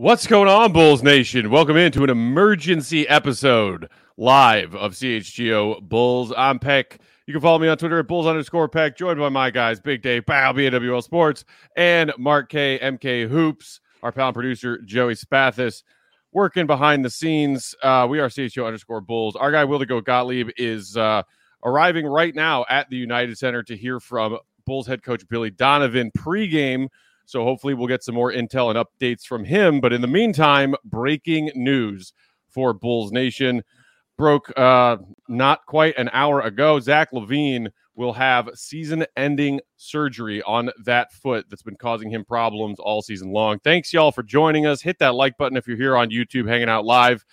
What's going on, Bulls Nation? Welcome into an emergency episode live of CHGO Bulls. I'm Peck. You can follow me on Twitter at Bulls_Peck, joined by my guys, Big Dave, Bow, BNWL Sports, and Mark K, MK Hoops, our pal and producer, Joey Spathis, working behind the scenes. We are CHGO_Bulls. Our guy, Will the Goat Gottlieb, is arriving right now at the United Center to hear from Bulls head coach Billy Donovan pregame. So hopefully we'll get some more intel and updates from him. But in the meantime, breaking news for Bulls Nation. Broke not quite an hour ago. Zach LaVine will have season-ending surgery on that foot that's been causing him problems all season long. Thanks, y'all, for joining us. Hit that like button if you're here on YouTube hanging out live.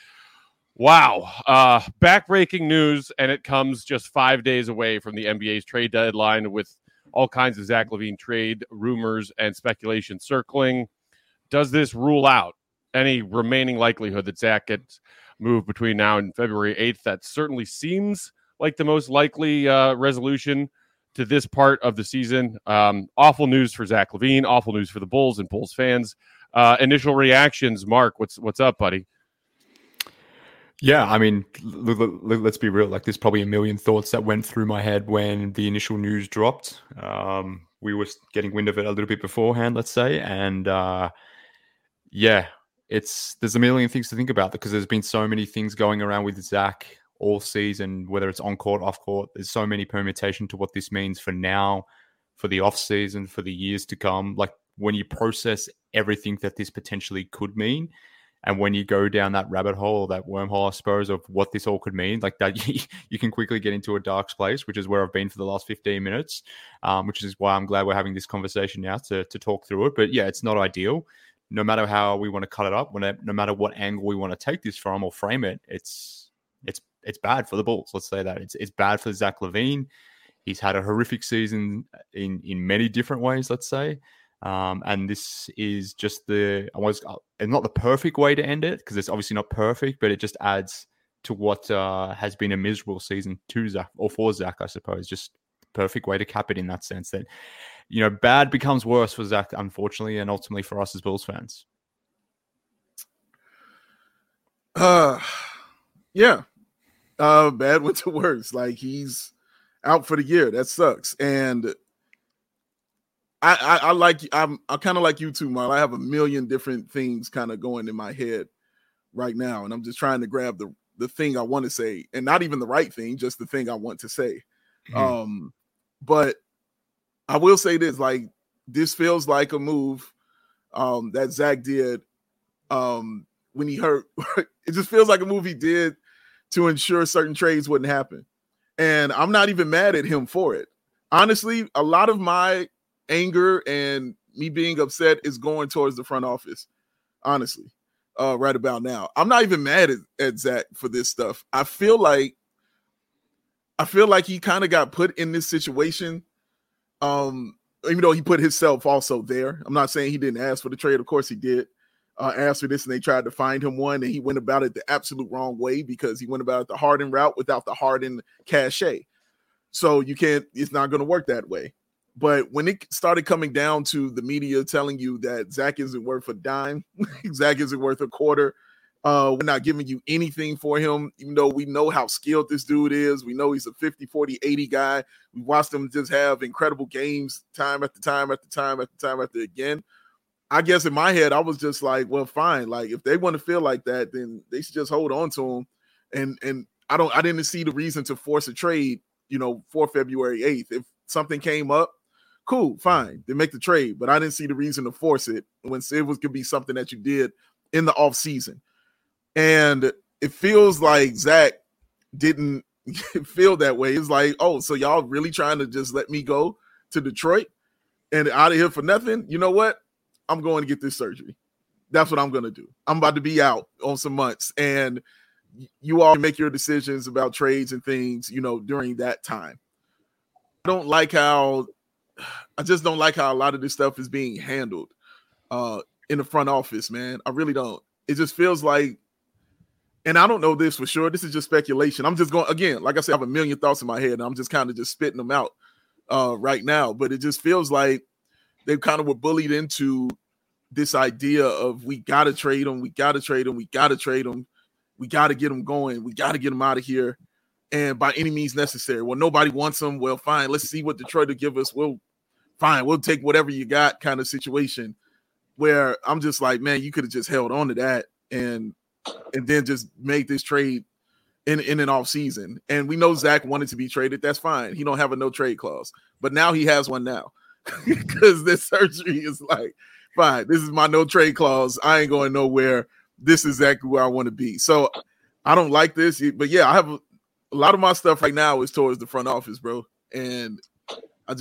Wow. Back-breaking news, and it comes just 5 days away from the NBA's trade deadline with all kinds of Zach LaVine trade rumors and speculation circling. Does this rule out any remaining likelihood that Zach gets moved between now and February 8th? That certainly seems like the most likely resolution to this part of the season. Awful news for Zach LaVine, awful news for the Bulls and Bulls fans. Initial reactions, Mark, what's up, buddy? Yeah, I mean, let's be real. Like, there's probably a million thoughts that went through my head when the initial news dropped. We were getting wind of it a little bit beforehand, let's say. And yeah, there's a million things to think about because there's been so many things going around with Zach all season, whether it's on court, off court. There's so many permutation to what this means for now, for the off season, for the years to come. Like, when you process everything that this potentially could mean, and when you go down that rabbit hole, that wormhole, I suppose, of what this all could mean, like that, you can quickly get into a dark place, which is where I've been for the last 15 minutes, which is why I'm glad we're having this conversation now to talk through it. But yeah, it's not ideal. No matter how we want to cut it up, no matter what angle we want to take this from or frame it, it's bad for the Bulls. Let's say that. It's bad for Zach LaVine. He's had a horrific season in many different ways, let's say. And this is just not the perfect way to end it because it's obviously not perfect, but it just adds to what has been a miserable season to Zach, or for Zach, I suppose. Just the perfect way to cap it in that sense that, bad becomes worse for Zach, unfortunately, and ultimately for us as Bulls fans. Yeah. Bad went to worse. Like, he's out for the year. That sucks. And I'm kind of like you too, Marl. I have a million different things kind of going in my head right now, and I'm just trying to grab the thing I want to say, and not even the right thing, just the thing I want to say. Mm-hmm. But I will say this: like, this feels like a move that Zach did when he hurt. It just feels like a move he did to ensure certain trades wouldn't happen, and I'm not even mad at him for it. Honestly, a lot of my anger and me being upset is going towards the front office, honestly, right about now. I'm not even mad at Zach for this stuff. I feel like he kind of got put in this situation, even though he put himself also there. I'm not saying he didn't ask for the trade. Of course he did ask for this, and they tried to find him one, and he went about it the absolute wrong way because he went about it the Harden route without the Harden cachet. So it's not going to work that way. But when it started coming down to the media telling you that Zach isn't worth a dime, Zach isn't worth a quarter, we're not giving you anything for him, even though we know how skilled this dude is. We know he's a 50, 40, 80 guy. We watched him just have incredible games time after time after time after time after again. I guess in my head, I was just like, well, fine. Like, if they want to feel like that, then they should just hold on to him. And I didn't see the reason to force a trade, for February 8th. If something came up, cool, fine, then make the trade. But I didn't see the reason to force it when it could be something that you did in the off season. And it feels like Zach didn't feel that way. It's like, oh, so y'all really trying to just let me go to Detroit and out of here for nothing? You know what? I'm going to get this surgery. That's what I'm going to do. I'm about to be out on some months, and you all make your decisions about trades and things, during that time. I just don't like how a lot of this stuff is being handled in the front office, man. I really don't. It just feels like, and I don't know this for sure. This is just speculation. I'm just going, again, like I said, I have a million thoughts in my head, and I'm just kind of just spitting them out right now. But it just feels like they kind of were bullied into this idea of we got to trade him, we got to trade him, we got to trade him, we got to get him going, we got to get him out of here, and by any means necessary. Well, nobody wants him. Well, fine, let's see what Detroit will give us. We'll take whatever you got kind of situation, where I'm just like, man, you could have just held on to that and then just made this trade in an off season. And we know Zach wanted to be traded. That's fine. He don't have a no trade clause, but now he has one now because this surgery is like, fine, this is my no trade clause. I ain't going nowhere. This is exactly where I want to be. So I don't like this, but yeah, I have a lot of my stuff right now is towards the front office, bro. And I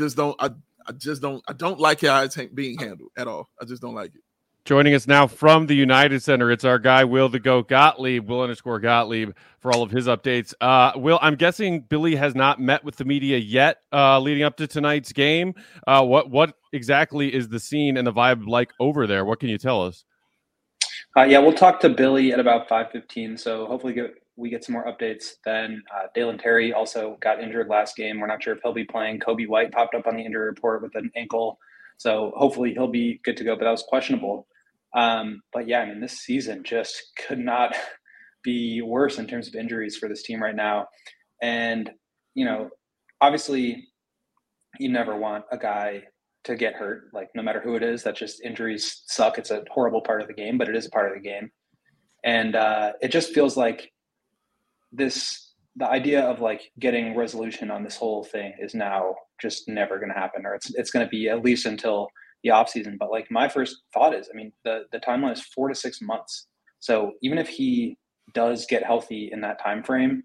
don't like how it's being handled at all. I just don't like it. Joining us now from the United Center, it's our guy, Will the Goat Gottlieb, Will_Gottlieb, for all of his updates. Will, I'm guessing Billy has not met with the media yet leading up to tonight's game. What exactly is the scene and the vibe like over there? What can you tell us? Yeah, we'll talk to Billy at about 5:15, so hopefully we get some more updates then. Dalen Terry also got injured last game. We're not sure if he'll be playing. Kobe White popped up on the injury report with an ankle, so hopefully he'll be good to go, but that was questionable. But yeah, I mean, this season just could not be worse in terms of injuries for this team right now. And, you know, obviously you never want a guy to get hurt, like no matter who it is. That just injuries suck. It's a horrible part of the game, but it is a part of the game. And it just feels like the idea of like getting resolution on this whole thing is now just never going to happen, or it's going to be at least until the offseason. But like my first thought is, I mean, the timeline is 4 to 6 months. So even if he does get healthy in that time frame,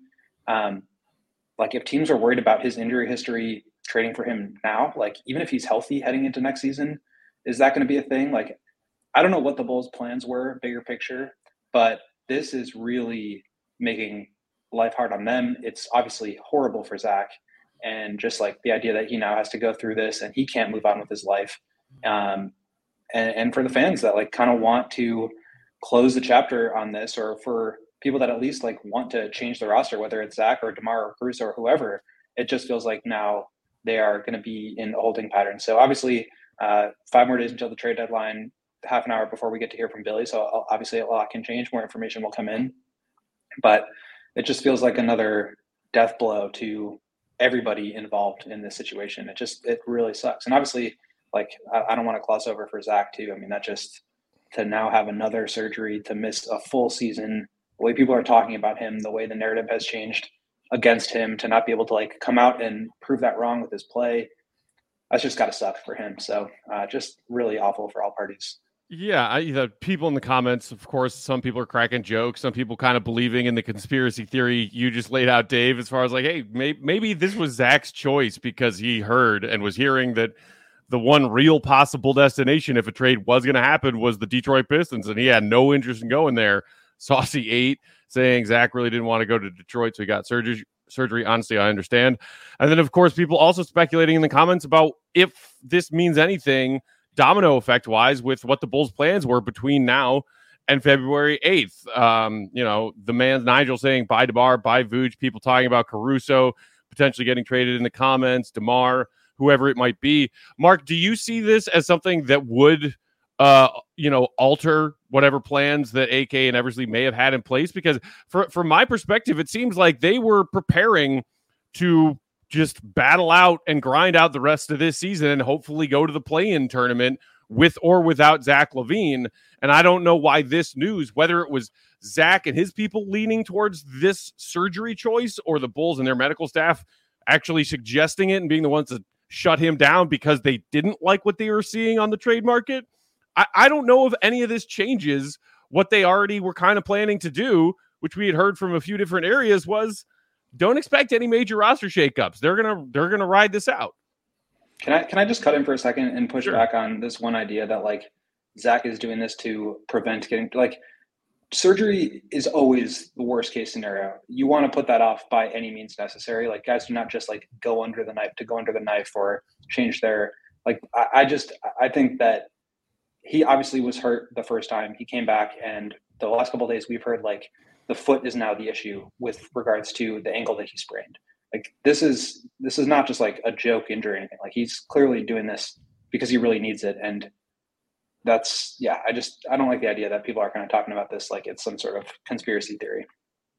like if teams are worried about his injury history, trading for him now, like even if he's healthy heading into next season, is that going to be a thing? Like, I don't know what the Bulls' plans were, bigger picture, but this is really making life hard on them. It's obviously horrible for Zach, and just like the idea that he now has to go through this and he can't move on with his life. And for the fans that like kind of want to close the chapter on this, or for people that at least like want to change the roster, whether it's Zach or DeMar or Caruso or whoever, it just feels like now they are going to be in a holding pattern. So obviously 5 more days until the trade deadline, half an hour before we get to hear from Billy. So obviously a lot can change, more information will come in, but it just feels like another death blow to everybody involved in this situation. It really sucks. And obviously, like, I don't want to gloss over for Zach too. I mean, that just to now have another surgery, to miss a full season, the way people are talking about him, the way the narrative has changed against him, to not be able to like come out and prove that wrong with his play, that's just got to suck for him. So just really awful for all parties. Yeah, the people in the comments, of course, some people are cracking jokes, some people kind of believing in the conspiracy theory you just laid out, Dave, as far as like, hey, maybe this was Zach's choice because he heard and was hearing that the one real possible destination, if a trade was going to happen, was the Detroit Pistons, and he had no interest in going there. Saucy 8 saying Zach really didn't want to go to Detroit, so he got surgery. Honestly, I understand. And then, of course, people also speculating in the comments about if this means anything domino effect wise with what the Bulls' plans were between now and February 8th. The man Nigel saying bye DeMar, bye Vooch, people talking about Caruso potentially getting traded in the comments, DeMar, whoever it might be. Mark, do you see this as something that would alter whatever plans that AK and Eversley may have had in place? Because from my perspective, it seems like they were preparing to just battle out and grind out the rest of this season and hopefully go to the play-in tournament with or without Zach LaVine. And I don't know why this news, whether it was Zach and his people leaning towards this surgery choice or the Bulls and their medical staff actually suggesting it and being the ones to shut him down because they didn't like what they were seeing on the trade market. I don't know if any of this changes what they already were kind of planning to do, which we had heard from a few different areas, was don't expect any major roster shakeups. They're gonna ride this out. Can I just cut in for a second and push Sure. back on this one idea that like Zach is doing this to prevent getting like surgery is always the worst case scenario. You want to put that off by any means necessary. Like guys do not just like go under the knife or change their like. I think that he obviously was hurt the first time he came back, and the last couple of days we've heard like the foot is now the issue with regards to the ankle that he sprained. Like this is not just like a joke injury or anything. Like he's clearly doing this because he really needs it. And I don't like the idea that people are kind of talking about this like it's some sort of conspiracy theory.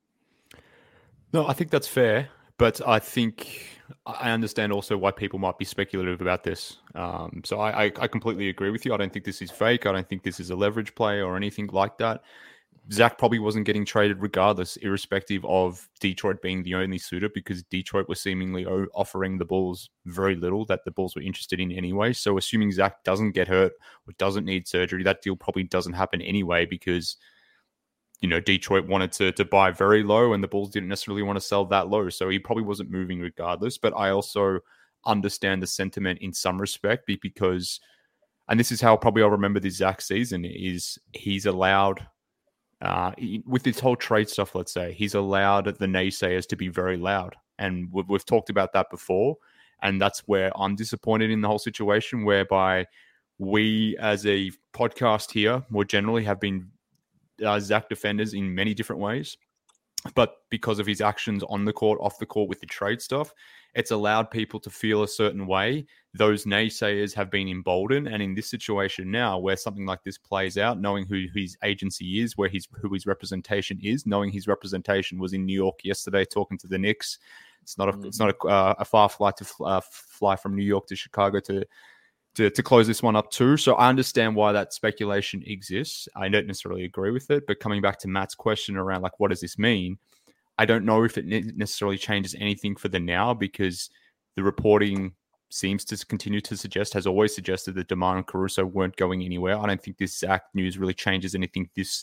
No, I think that's fair, but I think I understand also why people might be speculative about this. So I completely agree with you. I don't think this is fake. I don't think this is a leverage play or anything like that. Zach probably wasn't getting traded regardless, irrespective of Detroit being the only suitor, because Detroit was seemingly offering the Bulls very little that the Bulls were interested in anyway. So assuming Zach doesn't get hurt or doesn't need surgery, that deal probably doesn't happen anyway because, you know, Detroit wanted to buy very low and the Bulls didn't necessarily want to sell that low. So he probably wasn't moving regardless. But I also understand the sentiment in some respect because, and this is how probably I'll remember this Zach season, is he's allowed... with this whole trade stuff, let's say, he's allowed the naysayers to be very loud. And we've talked about that before. And that's where I'm disappointed in the whole situation, whereby we as a podcast here more generally have been Zach defenders in many different ways. But because of his actions on the court, off the court with the trade stuff, it's allowed people to feel a certain way. Those naysayers have been emboldened. And in this situation now, where something like this plays out, knowing who his agency is, who his representation is, knowing his representation was in New York yesterday talking to the Knicks. It's not a far flight to fly from New York to Chicago to close this one up too. So I understand why that speculation exists. I don't necessarily agree with it, but coming back to Matt's question around like, what does this mean? I don't know if it necessarily changes anything for the now, because the reporting seems to continue to suggest, has always suggested, that DeMar and Caruso weren't going anywhere. I don't think this Zach news really changes anything this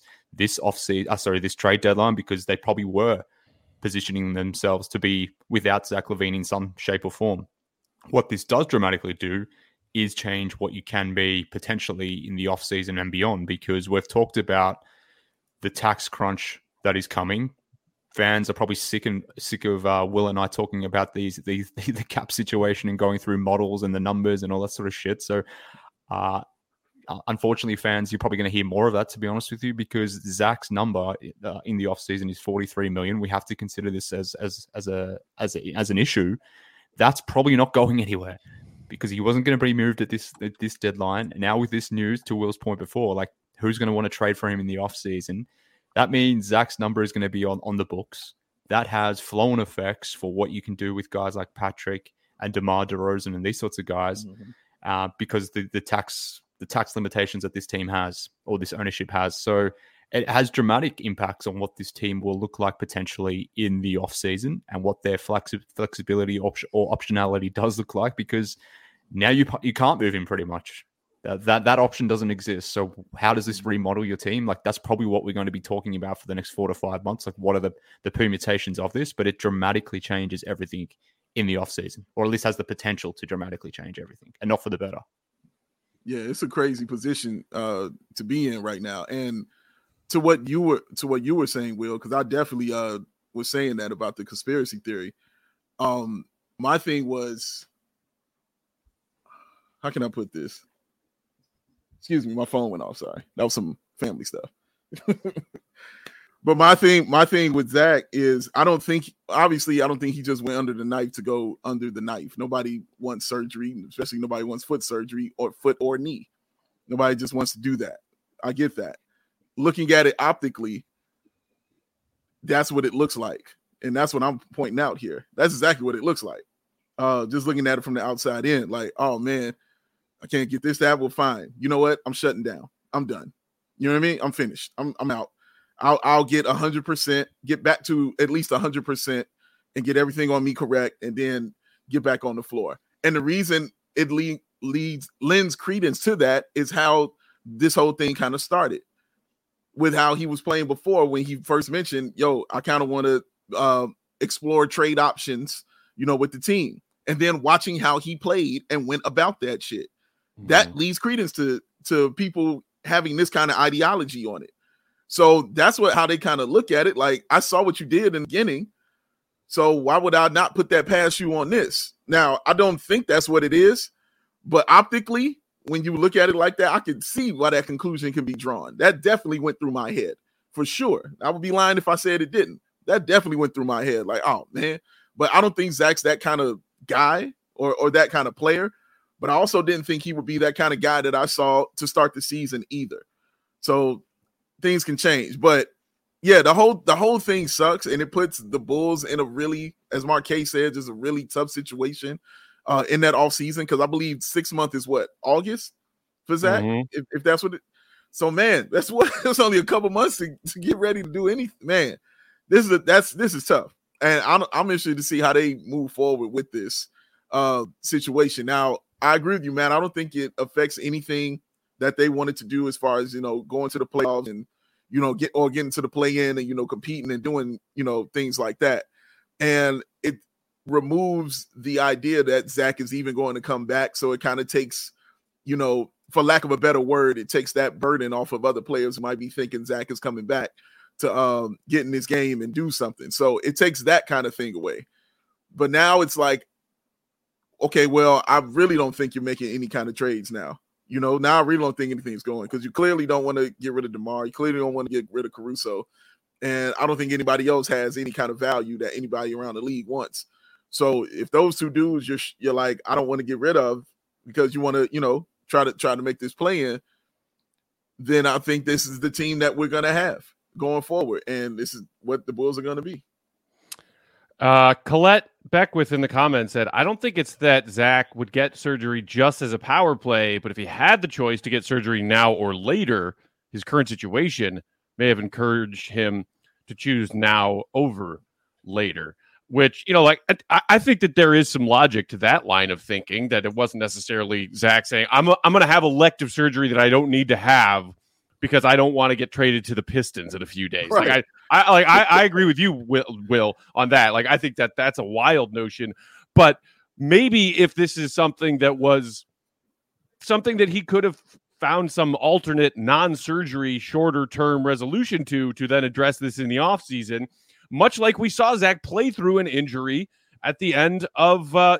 trade deadline, because they probably were positioning themselves to be without Zach LaVine in some shape or form. What this does dramatically do is change what you can be potentially in the offseason and beyond, because we've talked about the tax crunch that is coming. Fans are probably sick of Will and I talking about the cap situation and going through models and the numbers and all that sort of shit. So, unfortunately, fans, you're probably going to hear more of that, to be honest with you, because Zach's number in the offseason is $43 million. We have to consider this as an issue. That's probably not going anywhere, because he wasn't going to be moved at this deadline. And now with this news, to Will's point before, like, who's going to want to trade for him in the offseason? That means Zach's number is going to be on the books. That has flow-on effects for what you can do with guys like Patrick and DeMar DeRozan and these sorts of guys, because the tax limitations that this team has, or this ownership has. So it has dramatic impacts on what this team will look like potentially in the offseason and what their flexibility or optionality does look like, because now you can't move him pretty much. That option doesn't exist. So how does this remodel your team? Like, that's probably what we're going to be talking about for the next 4 to 5 months. Like, what are the permutations of this? But it dramatically changes everything in the offseason, or at least has the potential to dramatically change everything, and not for the better. Yeah, it's a crazy position to be in right now. And to what you were saying, Will, because I definitely was saying that about the conspiracy theory. My thing was, how can I put this? Excuse me, my phone went off. Sorry, that was some family stuff. But my thing with Zach is, I don't think he just went under the knife to go under the knife. Nobody wants surgery, especially nobody wants foot surgery or foot or knee. Nobody just wants to do that. I get that. Looking at it optically, that's what it looks like. And that's what I'm pointing out here. That's exactly what it looks like. Just looking at it from the outside in, like, oh man, I can't get this to happen. Well, fine. You know what? I'm shutting down. I'm done. You know what I mean? I'm finished. I'm out. I'll get 100%, get back to at least 100% and get everything on me correct, and then get back on the floor. And the reason it lends credence to that is how this whole thing kind of started, with how he was playing before, when he first mentioned, yo, I kind of want to explore trade options, with the team. And then watching how he played and went about that shit, that leads credence to people having this kind of ideology on it. So that's how they kind of look at it. Like, I saw what you did in the beginning, so why would I not put that past you on this? Now, I don't think that's what it is, but optically, when you look at it like that, I can see why that conclusion can be drawn. That definitely went through my head, for sure. I would be lying if I said it didn't. That definitely went through my head. Like, oh man, but I don't think Zach's that kind of guy or that kind of player. but I also didn't think he would be that kind of guy that I saw to start the season either. So things can change, but yeah, the whole thing sucks, and it puts the Bulls in a really, as Marquez said, just a really tough situation in that offseason, because I believe 6 months is what, August for Zach, if that's what it. So man, that's only a couple months to get ready to do anything. Man, this is tough, and I'm interested to see how they move forward with this situation. Now, I agree with you, man. I don't think it affects anything that they wanted to do as far as, going to the playoffs and, getting to the play-in and, competing and doing, things like that. And it removes the idea that Zach is even going to come back. So it kind of takes, for lack of a better word, it takes that burden off of other players who might be thinking Zach is coming back to get in this game and do something. So it takes that kind of thing away. But now it's like, okay, well, I really don't think you're making any kind of trades now. Now I really don't think anything's going, because you clearly don't want to get rid of DeMar. You clearly don't want to get rid of Caruso. And I don't think anybody else has any kind of value that anybody around the league wants. So if those two dudes you're like, I don't want to get rid of because you want to, try to make this play in, then I think this is the team that we're going to have going forward. And this is what the Bulls are going to be. Colette Beckwith in the comments said, I don't think it's that Zach would get surgery just as a power play, but if he had the choice to get surgery now or later, his current situation may have encouraged him to choose now over later. Which, I think that there is some logic to that line of thinking, that it wasn't necessarily Zach saying, I'm going to have elective surgery that I don't need to have because I don't want to get traded to the Pistons in a few days. Right. I agree with you, Will, on that. Like, I think that that's a wild notion, but maybe if this is something that was something that he could have found some alternate non-surgery, shorter term resolution to then address this in the offseason, much like we saw Zach play through an injury at the end of, that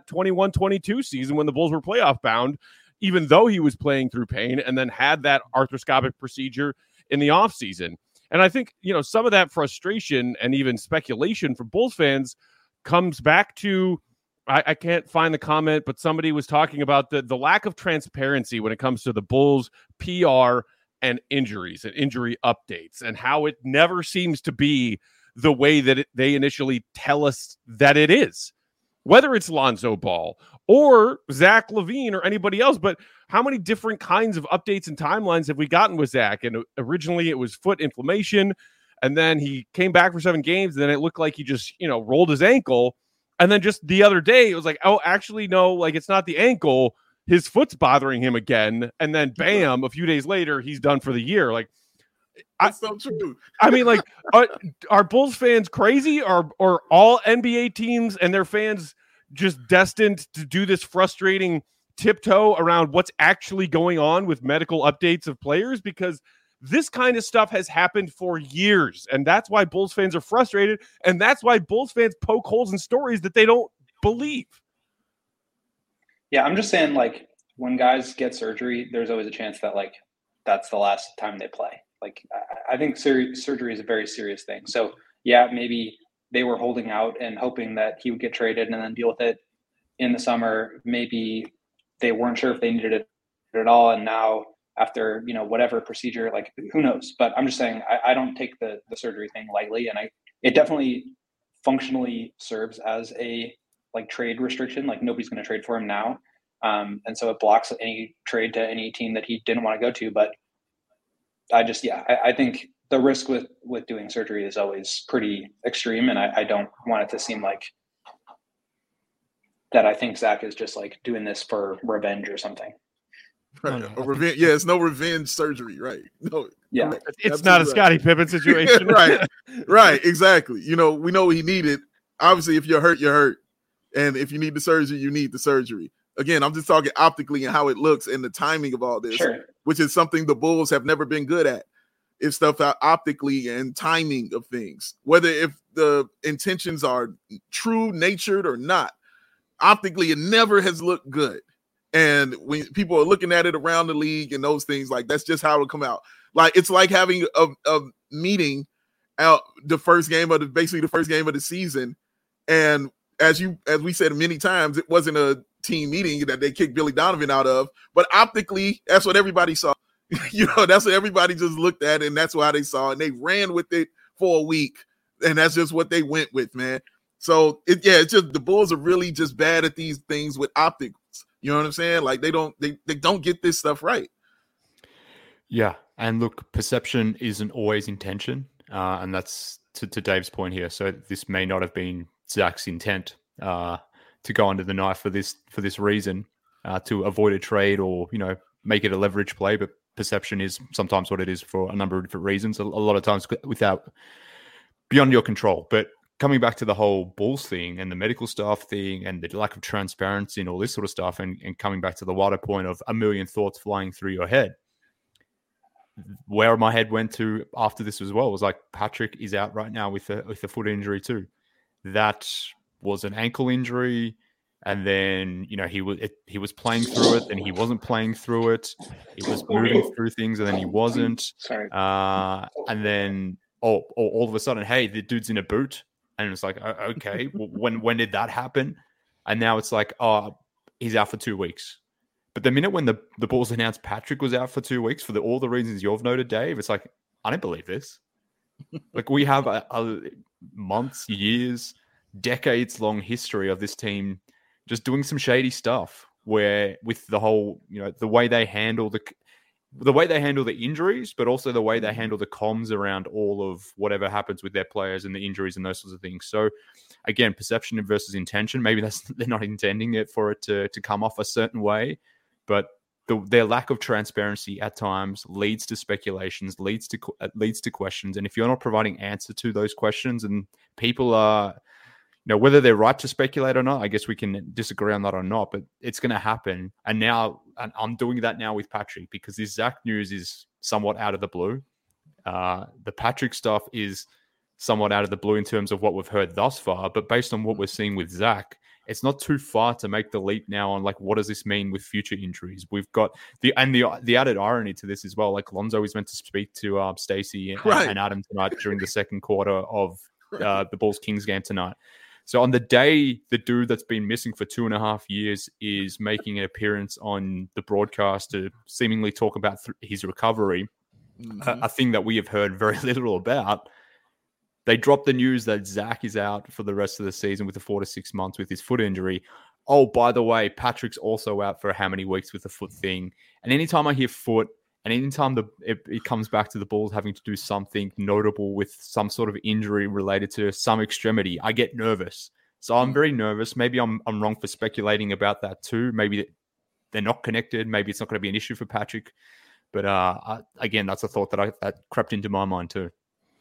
21-22 season when the Bulls were playoff bound, even though he was playing through pain, and then had that arthroscopic procedure in the offseason. And I think, some of that frustration and even speculation from Bulls fans comes back to, I can't find the comment, but somebody was talking about the lack of transparency when it comes to the Bulls PR and injuries and injury updates, and how it never seems to be the way that they initially tell us that it is. Whether it's Lonzo Ball or Zach LaVine or anybody else, but how many different kinds of updates and timelines have we gotten with Zach? And originally it was foot inflammation, and then he came back for 7 games, and then it looked like he just, rolled his ankle. And then just the other day, it was like, oh, actually, no, like, it's not the ankle. His foot's bothering him again. And then bam, a few days later, he's done for the year. Like, that's so true. I mean, like, are Bulls fans crazy? Or all NBA teams and their fans just destined to do this frustrating tiptoe around what's actually going on with medical updates of players? Because this kind of stuff has happened for years, and that's why Bulls fans are frustrated, and that's why Bulls fans poke holes in stories that they don't believe. Yeah, I'm just saying, like, when guys get surgery, there's always a chance that, like, that's the last time they play. Like, I think surgery is a very serious thing. So, yeah, maybe they were holding out and hoping that he would get traded and then deal with it in the summer. Maybe they weren't sure if they needed it at all, and now after, whatever procedure, like, who knows? But I'm just saying, I don't take the surgery thing lightly, and it definitely functionally serves as a, like, trade restriction. Like, nobody's going to trade for him now. And so it blocks any trade to any team that he didn't want to go to. But I think the risk with doing surgery is always pretty extreme. And I don't want it to seem like that I think Zach is just, like, doing this for revenge or something. Right. Or revenge. Yeah, it's no revenge surgery, right? No. Yeah. It's not a Scottie Pippen situation. Right. Exactly. We know he needed. Obviously, if you're hurt, you're hurt. And if you need the surgery, you need the surgery. Again, I'm just talking optically and how it looks and the timing of all this, sure, which is something the Bulls have never been good at. It's stuff out optically and timing of things, whether if the intentions are true natured or not. Optically, it never has looked good. And when people are looking at it around the league and those things, like, that's just how it'll come out. Like, it's like having a meeting out the first game of the season. And as we said many times, it wasn't a team meeting that they kicked Billy Donovan out of. But optically, that's what everybody saw. That's what everybody just looked at, and that's why they saw it. And they ran with it for a week, and that's just what they went with, man. So it's just the Bulls are really just bad at these things with optics. You know what I'm saying? Like they don't get this stuff right. Yeah, and look, perception isn't always intention, and that's to Dave's point here. So this may not have been Zach's intent to go under the knife for this reason, to avoid a trade or make it a leverage play. But perception is sometimes what it is for a number of different reasons. A lot of times beyond your control. But coming back to the whole Bulls thing and the medical staff thing and the lack of transparency and all this sort of stuff, and coming back to the wider point of a million thoughts flying through your head, where my head went to after this as well was like, Patrick is out right now with a foot injury too. That was an ankle injury, and then he was playing through it, and he wasn't playing through it. He was moving through things, and then he wasn't. Sorry. And then all of a sudden, hey, the dude's in a boot, and it's like, okay, when did that happen? And now it's like, oh, he's out for 2 weeks. But the minute when the Bulls announced Patrick was out for 2 weeks for all the reasons you've noted, Dave, it's like, I don't believe this. Like, we have a months, years, decades-long history of this team just doing some shady stuff, where with the whole, the way they handle the injuries, but also the way they handle the comms around all of whatever happens with their players and the injuries and those sorts of things. So again, perception versus intention. Maybe they're not intending it for it to come off a certain way, but their lack of transparency at times leads to speculations, leads to questions. And if you're not providing answer to those questions, and people are, whether they're right to speculate or not, I guess we can disagree on that or not, but it's going to happen. And now I'm doing that now with Patrick, because this Zach news is somewhat out of the blue. The Patrick stuff is somewhat out of the blue in terms of what we've heard thus far, but based on what we're seeing with Zach, it's not too far to make the leap now on, like, what does this mean with future injuries? We've got the added irony to this as well. Like, Lonzo is meant to speak to Stacey and Adam tonight during the second quarter of the Bulls-Kings game tonight. So on the day the dude that's been missing for 2.5 years is making an appearance on the broadcast to seemingly talk about his recovery, a thing that we have heard very little about, they dropped the news that Zach is out for the rest of the season with the 4 to 6 months with his foot injury. Oh, by the way, Patrick's also out for how many weeks with the foot thing. And anytime I hear foot, and anytime it comes back to the Bulls having to do something notable with some sort of injury related to some extremity, I get nervous. So I'm very nervous. Maybe I'm wrong for speculating about that too. Maybe they're not connected. Maybe it's not going to be an issue for Patrick. But again, that's a thought that crept into my mind too.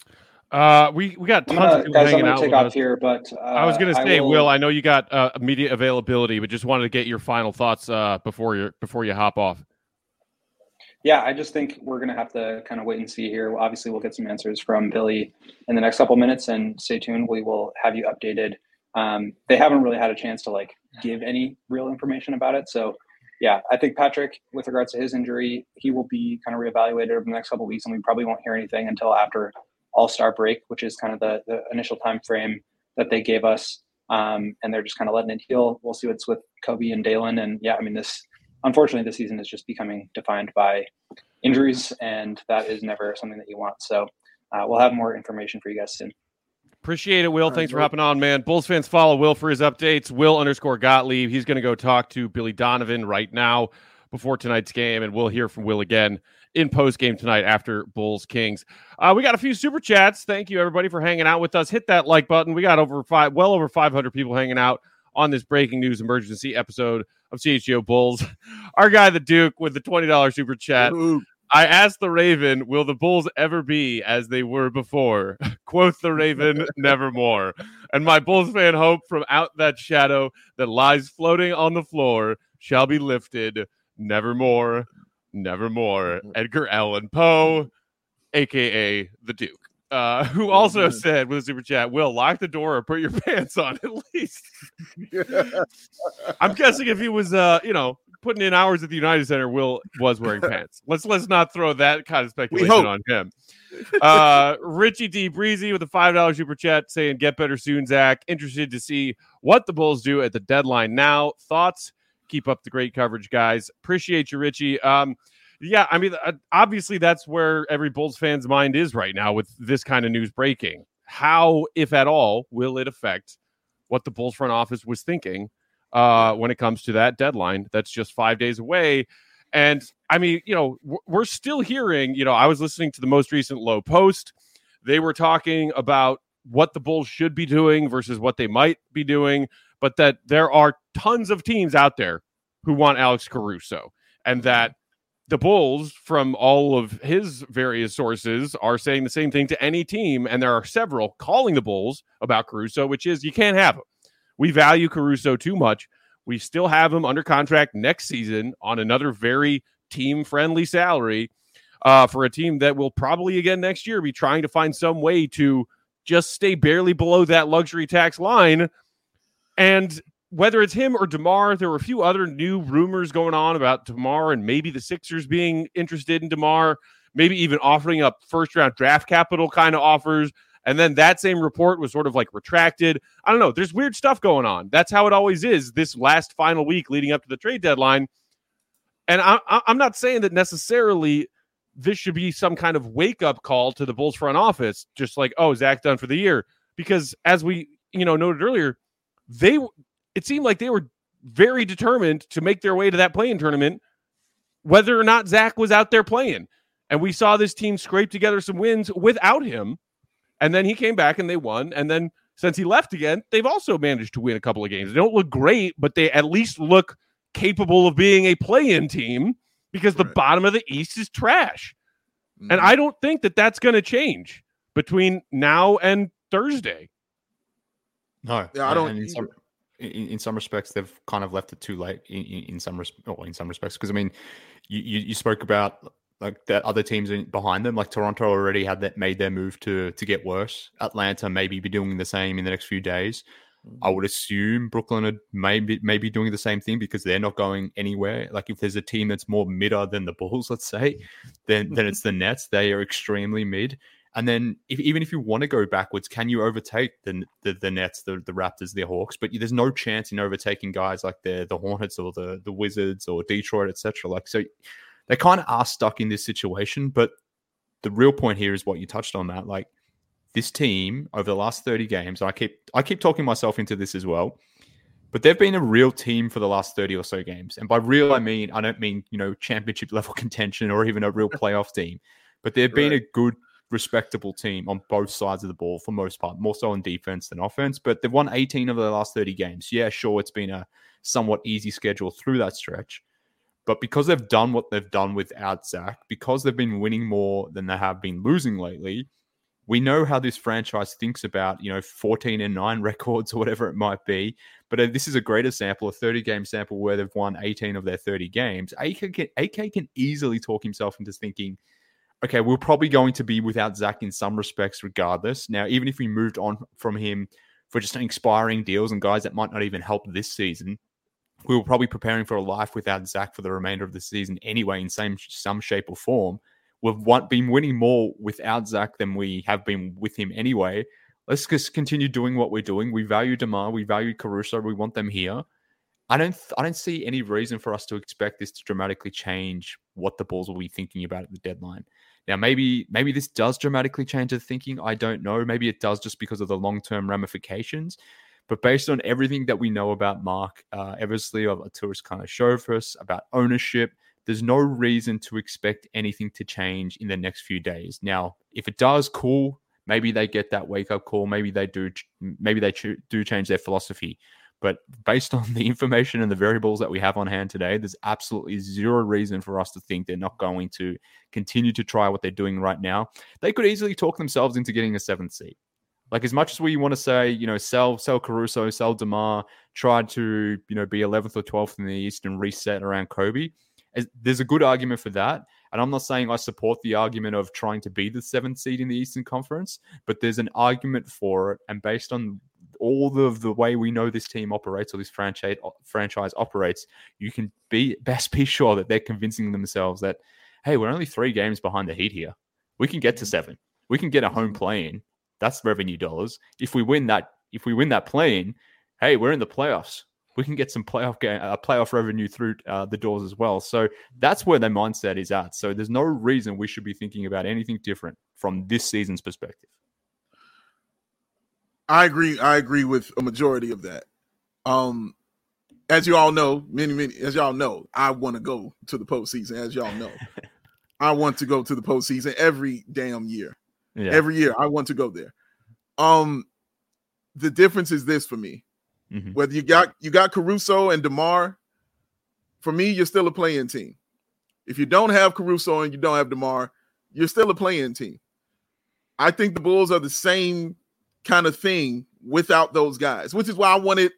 We got tons of people hanging out with us here, but I was going to say, Will, I know you got immediate availability, but just wanted to get your final thoughts before you hop off. Yeah, I just think we're going to have to kind of wait and see here. Obviously, we'll get some answers from Billy in the next couple minutes, and stay tuned. We will have you updated. They haven't really had a chance to give any real information about it. So, yeah, I think Patrick, with regards to his injury, he will be kind of reevaluated over the next couple of weeks, and we probably won't hear anything until after All-Star break, which is kind of the initial time frame that they gave us. And they're just kind of letting it heal. We'll see what's with Kobe and Dalen. And yeah, I mean, unfortunately, this season is just becoming defined by injuries, and that is never something that you want. So we'll have more information for you guys soon. Appreciate it, Will. Thanks for hopping on, man. Bulls fans, follow Will for his updates. Will_Gottlieb. He's going to go talk to Billy Donovan right now before tonight's game, and we'll hear from Will again in post-game tonight after Bulls-Kings. We got a few super chats. Thank you, everybody, for hanging out with us. Hit that like button. We got well over 500 people hanging out on this breaking news emergency episode of CHGO Bulls. Our guy, the Duke, with the $20 super chat. Ooh. I asked the Raven, will the Bulls ever be as they were before? Quoth the Raven, nevermore. And my Bulls fan hope from out that shadow that lies floating on the floor shall be lifted, nevermore, nevermore. Edgar Allan Poe, a.k.a. the Duke. Who also said with a super chat, Will, lock the door or put your pants on at least. I'm guessing if he was, putting in hours at the United Center, Will was wearing pants. Let's not throw that kind of speculation on him. Richie D. Breezy with a $5 super chat saying, get better soon, Zach. Interested to see what the Bulls do at the deadline now. Thoughts? Keep up the great coverage, guys. Appreciate you, Richie. Yeah, I mean, obviously that's where every Bulls fan's mind is right now with this kind of news breaking. How, if at all, will it affect what the Bulls front office was thinking when it comes to that deadline that's just 5 days away? And I mean, we're still hearing, I was listening to the most recent Low Post. They were talking about what the Bulls should be doing versus what they might be doing, but that there are tons of teams out there who want Alex Caruso, and that the Bulls, from all of his various sources, are saying the same thing to any team, and there are several calling the Bulls about Caruso, which is you can't have him. We value Caruso too much. We still have him under contract next season on another very team-friendly salary for a team that will probably again next year be trying to find some way to just stay barely below that luxury tax line. And whether it's him or DeMar, there were a few other new rumors going on about DeMar and maybe the Sixers being interested in DeMar, maybe even offering up first-round draft capital kind of offers. And then that same report was sort of like retracted. I don't know. There's weird stuff going on. That's how it always is this last final week leading up to the trade deadline. And I'm not saying that necessarily this should be some kind of wake-up call to the Bulls front office, just like, oh, Zach done for the year. Because as we noted earlier, it seemed like they were very determined to make their way to that play-in tournament, whether or not Zach was out there playing. And we saw this team scrape together some wins without him. And then he came back and they won. And then since he left again, they've also managed to win a couple of games. They don't look great, but they at least look capable of being a play-in team because the bottom of the East is trash. Mm-hmm. And I don't think that that's going to change between now and Thursday. No. Yeah, I don't. In some respects, they've kind of left it too late in some respects. Because, I mean, you spoke about like that other teams behind them, like Toronto already had made their move to get worse. Atlanta maybe be doing the same in the next few days. I would assume Brooklyn would maybe doing the same thing because they're not going anywhere. Like if there's a team that's more midder than the Bulls, let's say, then it's the Nets. They are extremely mid. And then even if you want to go backwards, can you overtake the Nets, the Raptors, the Hawks? But there's no chance in overtaking guys like the Hornets or the Wizards or Detroit, etc. Like, so they kind of are stuck in this situation. But the real point here is what you touched on, Matt. Like this team over the last 30 games, I keep talking myself into this as well, but they've been a real team for the last 30 or so games. And by real, I don't mean championship level contention or even a real playoff team, but they've been a good, respectable team on both sides of the ball for most part, more so on defense than offense, but they've won 18 of their last 30 games. Yeah, sure, it's been a somewhat easy schedule through that stretch, but because they've done what they've done without Zach, because they've been winning more than they have been losing lately, we know how this franchise thinks about, 14-9 records or whatever it might be, but this is a great example, a 30-game sample where they've won 18 of their 30 games. AK can easily talk himself into thinking, okay, we're probably going to be without Zach in some respects regardless. Now, even if we moved on from him for just expiring deals and guys that might not even help this season, we were probably preparing for a life without Zach for the remainder of the season anyway in some shape or form. We've been winning more without Zach than we have been with him anyway. Let's just continue doing what we're doing. We value DeMar. We value Caruso. We want them here. I don't see any reason for us to expect this to dramatically change what the Bulls will be thinking about at the deadline. Now, maybe this does dramatically change the thinking. I don't know. Maybe it does just because of the long-term ramifications. But based on everything that we know about Mark Eversley, of Arturas Karnisovas, about ownership, there's no reason to expect anything to change in the next few days. Now, if it does, cool. Maybe they get that wake-up call. Maybe they do change their philosophy. But based on the information and the variables that we have on hand today, there's absolutely zero reason for us to think they're not going to continue to try what they're doing right now. They could easily talk themselves into getting a 7th seed. Like, as much as we want to say, sell Caruso, sell DeMar, try to, be 11th or 12th in the East and reset around Kobe, there's a good argument for that. And I'm not saying I support the argument of trying to be the 7th seed in the Eastern Conference, but there's an argument for it. And based on all of the way we know this team operates or this franchise operates, you can best be sure that they're convincing themselves that, hey, we're only 3 games behind the Heat here. We can get to 7. We can get a home play-in. That's revenue dollars. If we win that play-in, hey, we're in the playoffs. we can get some playoff revenue through the doors as well. So that's where their mindset is at. So there's no reason we should be thinking about anything different from this season's perspective. I agree with a majority of that. As you all know, as y'all know, I want to go to the postseason. As y'all know, I want to go to the postseason every damn year. Yeah. Every year, I want to go there. The difference is this for me. Mm-hmm. Whether you got Caruso and DeMar, for me, you're still a play-in team. If you don't have Caruso and you don't have DeMar, you're still a play-in team. I think the Bulls are the same kind of thing without those guys, which is why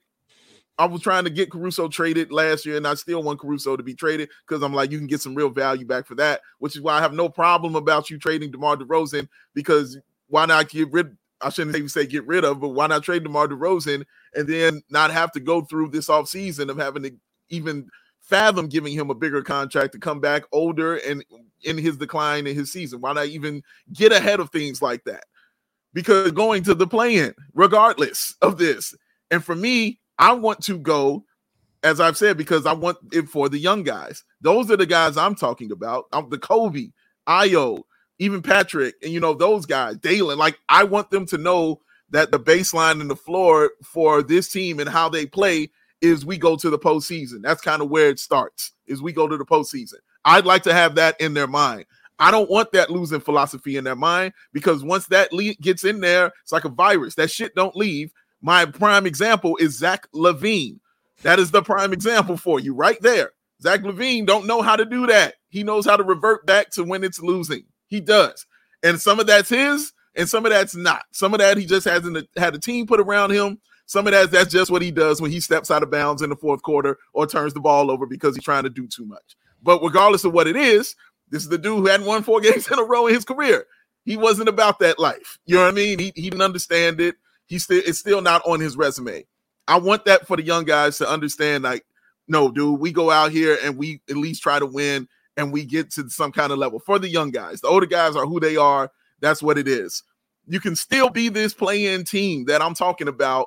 I was trying to get Caruso traded last year, and I still want Caruso to be traded because I'm like, you can get some real value back for that, which is why I have no problem about you trading DeMar DeRozan, because why not I shouldn't even say get rid of, but why not trade DeMar DeRozan and then not have to go through this offseason of having to even fathom giving him a bigger contract to come back older and in his decline in his season? Why not even get ahead of things like that? Because going to the play-in, regardless of this. And for me, I want to go, as I've said, because I want it for the young guys. Those are the guys I'm talking about. The Kobe, Ayo, even Patrick, and those guys, Dalen. Like, I want them to know that the baseline and the floor for this team and how they play is we go to the postseason. That's kind of where it starts, is we go to the postseason. I'd like to have that in their mind. I don't want that losing philosophy in their mind, because once that gets in there, it's like a virus. That shit don't leave. My prime example is Zach LaVine. That is the prime example for you right there. Zach LaVine don't know how to do that. He knows how to revert back to when it's losing. He does. And some of that's his and some of that's not. Some of that he just hasn't had a team put around him. Some of that's just what he does when he steps out of bounds in the fourth quarter or turns the ball over because he's trying to do too much. But regardless of what it is, this is the dude who hadn't won 4 games in a row in his career. He wasn't about that life. You know what I mean? He didn't understand it. It's still not on his resume. I want that for the young guys to understand, like, no, dude, we go out here and we at least try to win and we get to some kind of level. For the young guys, the older guys are who they are. That's what it is. You can still be this play-in team that I'm talking about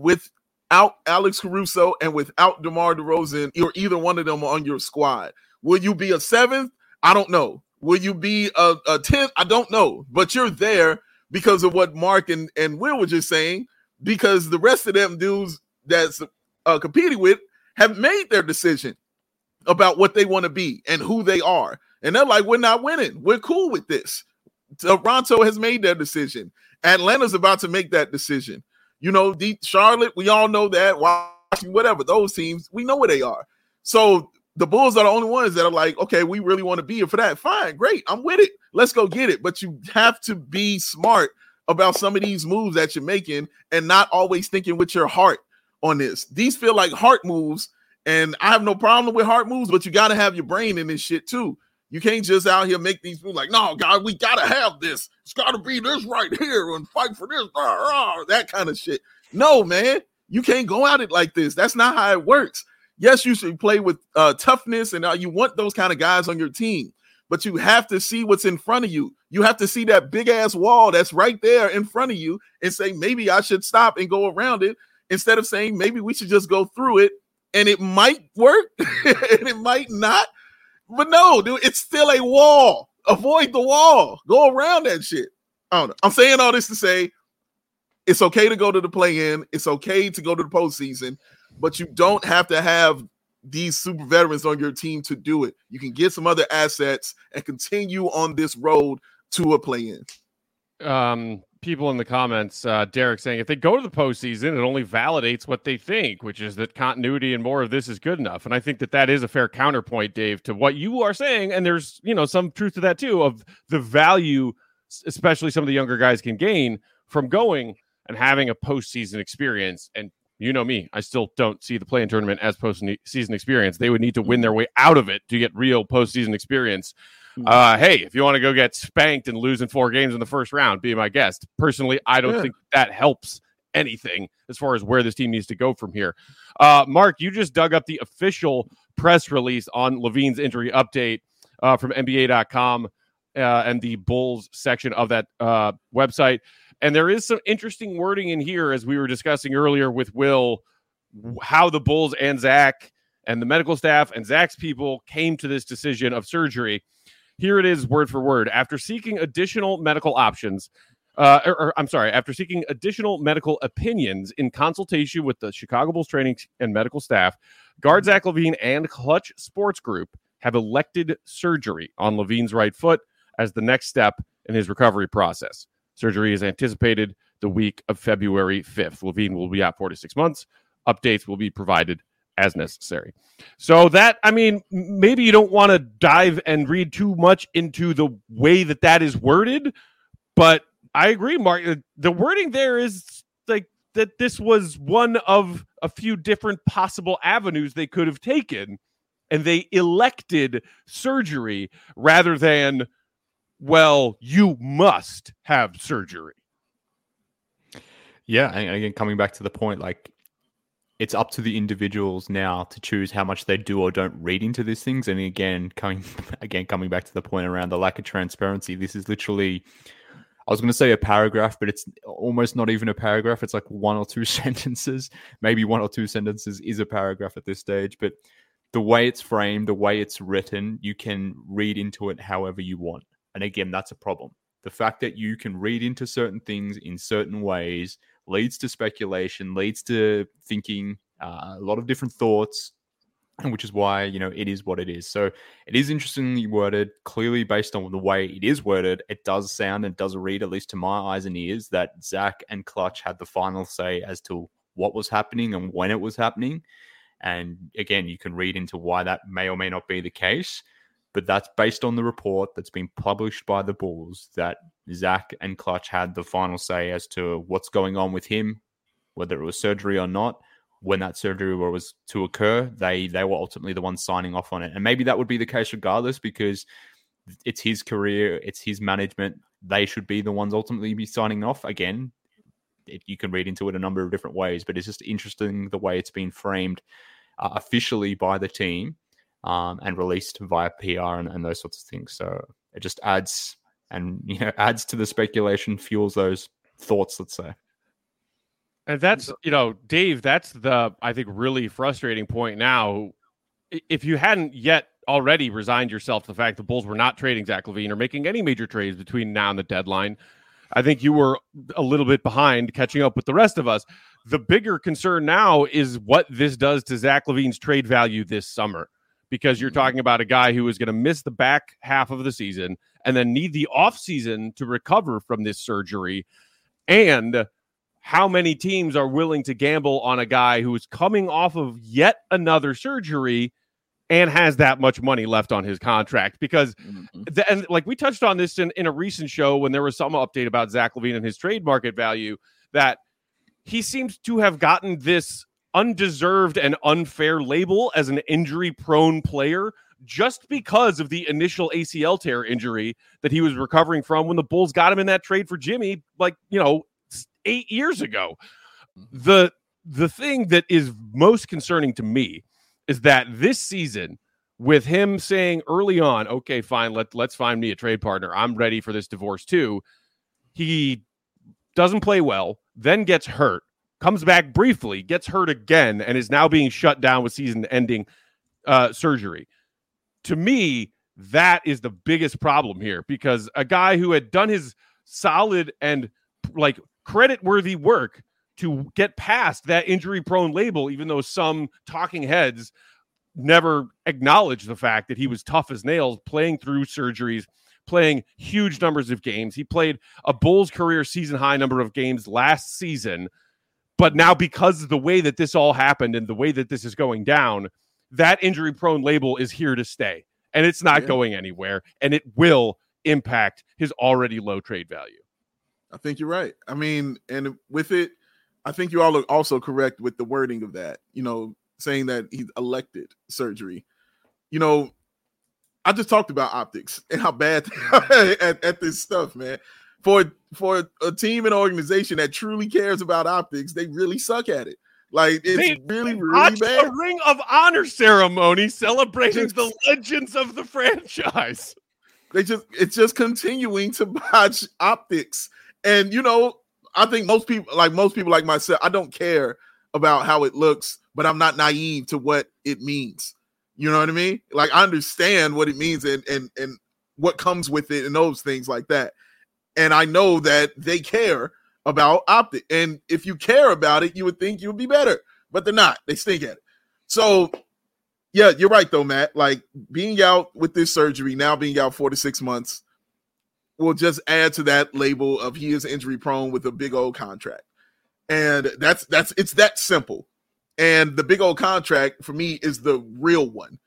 without Alex Caruso and without DeMar DeRozan or either one of them on your squad. Will you be a 7th? I don't know. Will you be a 10th? I don't know. But you're there because of what Mark and Will were just saying, because the rest of them dudes that's competing with have made their decision about what they want to be and who they are. And they're like, we're not winning. We're cool with this. Toronto has made their decision. Atlanta's about to make that decision. Charlotte, we all know that. Washington, whatever, those teams, we know where they are. So the Bulls are the only ones that are like, okay, we really want to be here for that. Fine, great, I'm with it. Let's go get it. But you have to be smart about some of these moves that you're making and not always thinking with your heart on this. These feel like heart moves, and I have no problem with heart moves, but you got to have your brain in this shit too. You can't just out here make these moves like, no, God, we got to have this. It's got to be this right here and fight for this, that kind of shit. No, man, you can't go at it like this. That's not how it works. Yes, you should play with toughness, and you want those kind of guys on your team, but you have to see what's in front of you. You have to see that big-ass wall that's right there in front of you and say, maybe I should stop and go around it, instead of saying, maybe we should just go through it, and it might work, and it might not. But no, dude, it's still a wall. Avoid the wall. Go around that shit. I don't know. I'm saying all this to say it's okay to go to the play-in. It's okay to go to the postseason, but you don't have to have these super veterans on your team to do it. You can get some other assets and continue on this road to a play-in. People in the comments, Derek saying, if they go to the postseason, it only validates what they think, which is that continuity and more of this is good enough. And I think that is a fair counterpoint, Dave, to what you are saying. And there's, some truth to that too, of the value, especially some of the younger guys can gain from going and having a postseason experience. And you know me, I still don't see the play-in tournament as postseason experience. They would need to win their way out of it to get real postseason experience. Hey, if you want to go get spanked and lose in 4 games in the first round, be my guest. Personally, I don't think that helps anything as far as where this team needs to go from here. Mark, you just dug up the official press release on LaVine's injury update from NBA.com and the Bulls section of that website. And there is some interesting wording in here, as we were discussing earlier with Will, how the Bulls and Zach and the medical staff and Zach's people came to this decision of surgery. Here it is, word for word. After seeking additional medical options, after seeking additional medical opinions in consultation with the Chicago Bulls training and medical staff, guard Zach LaVine and Clutch Sports Group have elected surgery on LaVine's right foot as the next step in his recovery process. Surgery is anticipated the week of February 5th. LaVine will be out 4 to 6 months. Updates will be provided as necessary. So that, I mean, maybe you don't want to dive and read too much into the way that is worded, but I agree, Mark. The wording there is like that this was one of a few different possible avenues they could have taken, and they elected surgery rather than, well, you must have surgery. Yeah, and again, coming back to the point, like, it's up to the individuals now to choose how much they do or don't read into these things. And again, coming back to the point around the lack of transparency, this is literally, I was going to say a paragraph, but it's almost not even a paragraph. It's like 1 or 2 sentences. Maybe 1 or 2 sentences is a paragraph at this stage. But the way it's framed, the way it's written, you can read into it however you want. And again, that's a problem. The fact that you can read into certain things in certain ways leads to speculation, leads to thinking, a lot of different thoughts, and which is why, it is what it is. So it is interestingly worded. Clearly, based on the way it is worded, it does sound and does read, at least to my eyes and ears, that Zach and Clutch had the final say as to what was happening and when it was happening. And again, you can read into why that may or may not be the case. But that's based on the report that's been published by the Bulls, that Zach and Clutch had the final say as to what's going on with him, whether it was surgery or not. When that surgery was to occur, they were ultimately the ones signing off on it. And maybe that would be the case regardless, because it's his career, it's his management. They should be the ones ultimately be signing off. Again, you can read into it a number of different ways, but it's just interesting the way it's been framed officially by the team. And released via PR and those sorts of things. So it just adds to the speculation, fuels those thoughts, let's say. And that's, Dave, that's the, I think, really frustrating point now. If you hadn't yet already resigned yourself to the fact the Bulls were not trading Zach LaVine or making any major trades between now and the deadline, I think you were a little bit behind catching up with the rest of us. The bigger concern now is what this does to Zach LaVine's trade value this summer. Because you're talking about a guy who is going to miss the back half of the season and then need the offseason to recover from this surgery. And how many teams are willing to gamble on a guy who is coming off of yet another surgery and has that much money left on his contract? Because, and like we touched on this in a recent show when there was some update about Zach LaVine and his trade market value, that he seems to have gotten this undeserved and unfair label as an injury-prone player just because of the initial ACL tear injury that he was recovering from when the Bulls got him in that trade for Jimmy, 8 years ago. The thing that is most concerning to me is that this season, with him saying early on, okay, fine, let's find me a trade partner. I'm ready for this divorce too. He doesn't play well, then gets hurt, comes back briefly, gets hurt again, and is now being shut down with season-ending surgery. To me, that is the biggest problem here, because a guy who had done his solid and credit-worthy work to get past that injury-prone label, even though some talking heads never acknowledged the fact that he was tough as nails, playing through surgeries, playing huge numbers of games. He played a Bulls career season-high number of games last season. But now, because of the way that this all happened and the way that this is going down, that injury-prone label is here to stay. And it's not going anywhere. And it will impact his already low trade value. I think you're right. I mean, and with it, I think you all are also correct with the wording of that, saying that he elected surgery. I just talked about optics and how bad at this stuff, man. For a team and organization that truly cares about optics, they really suck at it. It's really bad. A Ring of Honor ceremony celebrating the legends of the franchise. It's just continuing to botch optics. And I think most people like myself, I don't care about how it looks, but I'm not naive to what it means. You know what I mean? Like, I understand what it means and what comes with it and those things like that. And I know that they care about optic. And if you care about it, you would think you would be better, but they're not. They stink at it. So, yeah, you're right, though, Matt. Like, being out with this surgery, now being out 4 to 6 months, will just add to that label of he is injury prone with a big old contract. And it's that simple. And the big old contract for me is the real one.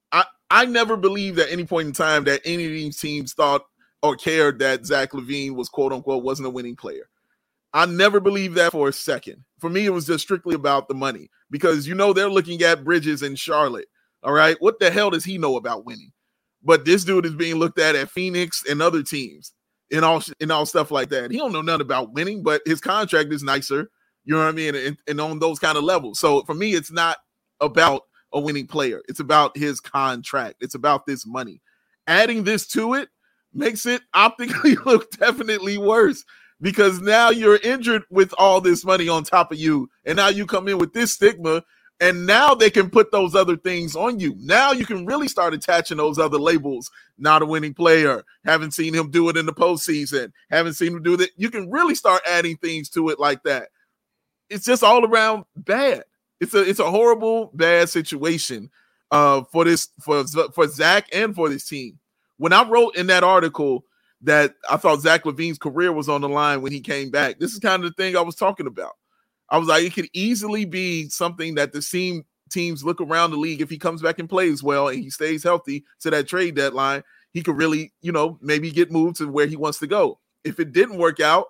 I never believed at any point in time that any of these teams thought or cared that Zach LaVine was, quote unquote, wasn't a winning player. I never believed that for a second. For me, it was just strictly about the money, because, you know, they're looking at Bridges in Charlotte. All right. What the hell does he know about winning? But this dude is being looked at Phoenix and other teams and all stuff like that. He don't know nothing about winning, but his contract is nicer. You know what I mean? And on those kind of levels. So for me, it's not about a winning player. It's about his contract. It's about this money. Adding this to it makes it optically look definitely worse, because now you're injured with all this money on top of you. And now you come in with this stigma, and now they can put those other things on you. Now you can really start attaching those other labels. Not a winning player. Haven't seen him do it in the postseason. Haven't seen him do that. You can really start adding things to it like that. It's just all around bad. It's a horrible, bad situation for Zach and for this team. When I wrote in that article that I thought Zach LaVine's career was on the line when he came back, this is kind of the thing I was talking about. I was like, it could easily be something that the teams look around the league. If he comes back and plays well and he stays healthy to that trade deadline, he could really, maybe get moved to where he wants to go. If it didn't work out,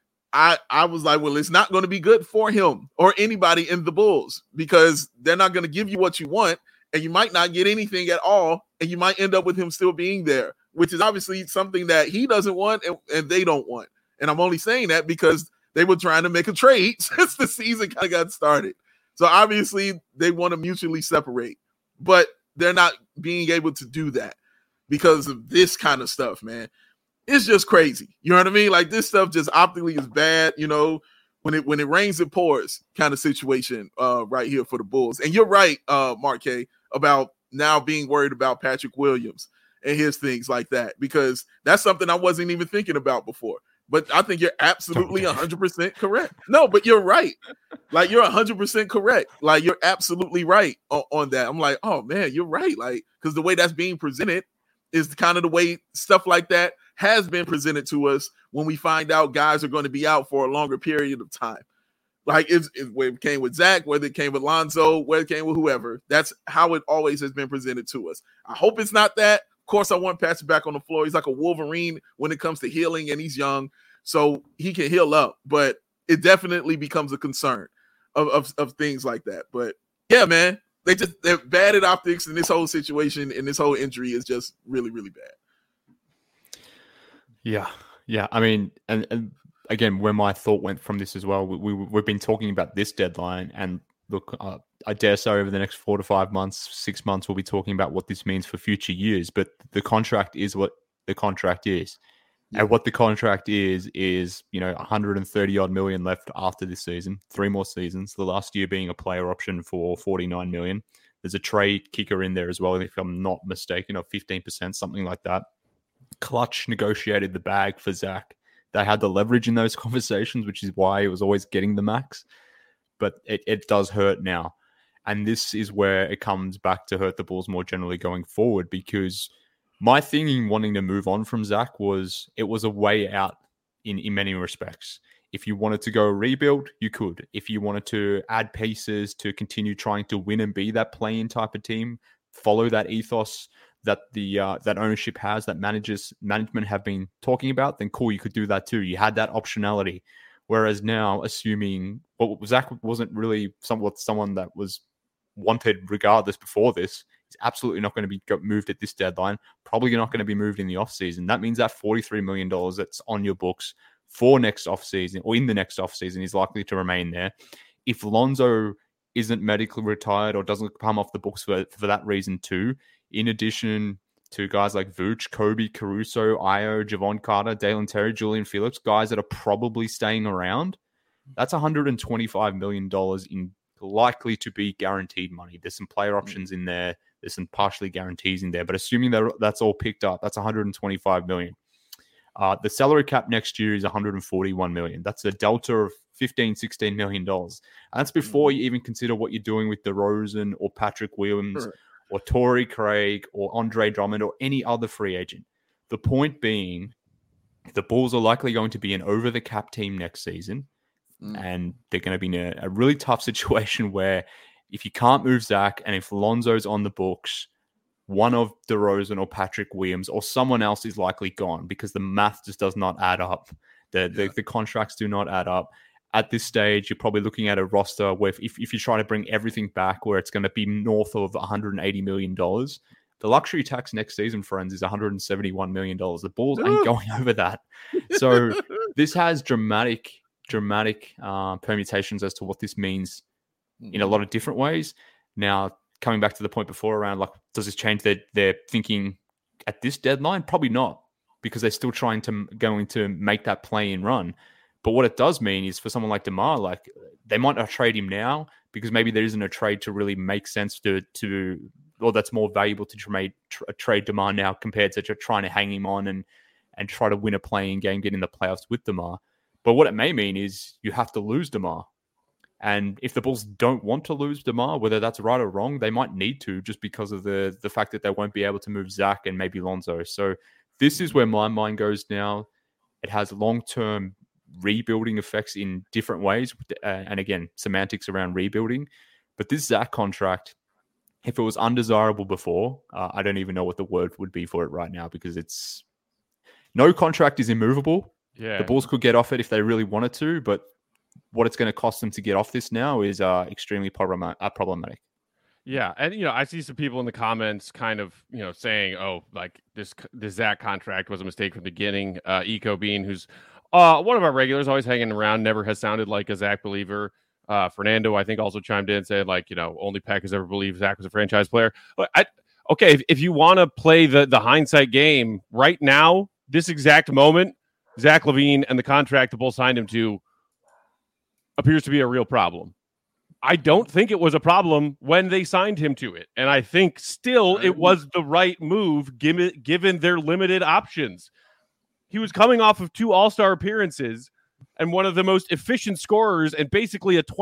I was like, well, it's not going to be good for him or anybody in the Bulls, because they're not going to give you what you want, and you might not get anything at all, and you might end up with him still being there, which is obviously something that he doesn't want and they don't want. And I'm only saying that because they were trying to make a trade since the season kind of got started. So obviously they want to mutually separate, but they're not being able to do that because of this kind of stuff, man. It's just crazy. You know what I mean? Like, this stuff just optically is bad, when it rains, it pours kind of situation right here for the Bulls. And you're right, Mark K, about now being worried about Patrick Williams and his things like that, because that's something I wasn't even thinking about before. But I think you're absolutely 100% correct. No, but you're right. Like, you're 100% correct. Like, you're absolutely right on that. I'm like, oh, man, you're right. Like, because the way that's being presented is kind of the way stuff like that has been presented to us when we find out guys are going to be out for a longer period of time. Like, it came with Zach, whether it came with Lonzo, whether it came with whoever. That's how it always has been presented to us. I hope it's not that. Of course, I want Patrick back on the floor. He's like a Wolverine when it comes to healing, and he's young, so he can heal up. But it definitely becomes a concern of things like that. But yeah, man, they're bad at optics, and this whole situation and this whole injury is just really, really bad. Yeah. I mean, and again, where my thought went from this as well, we've been talking about this deadline, and look, I dare say over the next 4 to 5 months, 6 months, we'll be talking about what this means for future years. But the contract is what the contract is. Yeah. And what the contract is 130 odd million left after this season, 3 more seasons, the last year being a player option for 49 million. There's a trade kicker in there as well, if I'm not mistaken, of 15%, something like that. Clutch negotiated the bag for Zach. They had the leverage in those conversations, which is why he was always getting the max. But it does hurt now. And this is where it comes back to hurt the Bulls more generally going forward, because my thing in wanting to move on from Zach was it was a way out in many respects. If you wanted to go rebuild, you could. If you wanted to add pieces to continue trying to win and be that play-in type of team, follow that ethos that that ownership has, that management have been talking about, then cool, you could do that too. You had that optionality. Whereas now, assuming Zach wasn't really someone that was wanted regardless before this, he's absolutely not going to be moved at this deadline, probably not going to be moved in the offseason. That means that $43 million that's on your books for next offseason, or in the next offseason, is likely to remain there. If Lonzo isn't medically retired or doesn't come off the books for that reason too, in addition to guys like Vooch, Kobe, Caruso, Io, Javon Carter, Dalen Terry, Julian Phillips, guys that are probably staying around, that's $125 million in likely to be guaranteed money. There's some player options in there. There's some partially guarantees in there. But assuming that that's all picked up, that's $125 million. The salary cap next year is $141 million. That's a delta of $16 million. And that's before you even consider what you're doing with DeRozan or Patrick Williams or Torrey Craig or Andre Drummond or any other free agent. The point being, the Bulls are likely going to be an over-the-cap team next season, and they're going to be in a really tough situation where if you can't move Zach and if Lonzo's on the books, one of DeRozan or Patrick Williams or someone else is likely gone because the math just does not add up. The contracts do not add up. At this stage, you're probably looking at a roster where if you try to bring everything back, where it's going to be north of $180 million. The luxury tax next season, friends, is $171 million. The Bulls ain't going over that. So this has dramatic permutations as to what this means in a lot of different ways. Now, coming back to the point before around, like, does this change their thinking at this deadline? Probably not, because they're still going to make that play-in run. But what it does mean is for someone like DeMar, like, they might not trade him now because maybe there isn't a trade to really make sense or that's more valuable to trade DeMar now compared to trying to hang him on and try to win a play-in game, get in the playoffs with DeMar. But what it may mean is you have to lose DeMar. And if the Bulls don't want to lose DeMar, whether that's right or wrong, they might need to, just because of the fact that they won't be able to move Zach and maybe Lonzo. So this is where my mind goes now. It has long-term rebuilding effects in different ways. And again, semantics around rebuilding. But this Zach contract, if it was undesirable before, I don't even know what the word would be for it right now, because no contract is immovable. Yeah. The Bulls could get off it if they really wanted to, but what it's going to cost them to get off this now is extremely problematic. Yeah, and I see some people in the comments kind of saying, "Oh, like this Zach contract was a mistake from the beginning." Eco Bean, who's one of our regulars, always hanging around, never has sounded like a Zach believer. Fernando, I think, also chimed in and said, like, only Peck has ever believed Zach was a franchise player. Okay, if you want to play the hindsight game right now, this exact moment, Zach LaVine and the contract the Bulls signed him to appears to be a real problem. I don't think it was a problem when they signed him to it. And I think still it was the right move given their limited options. He was coming off of 2 All-Star appearances and one of the most efficient scorers and basically a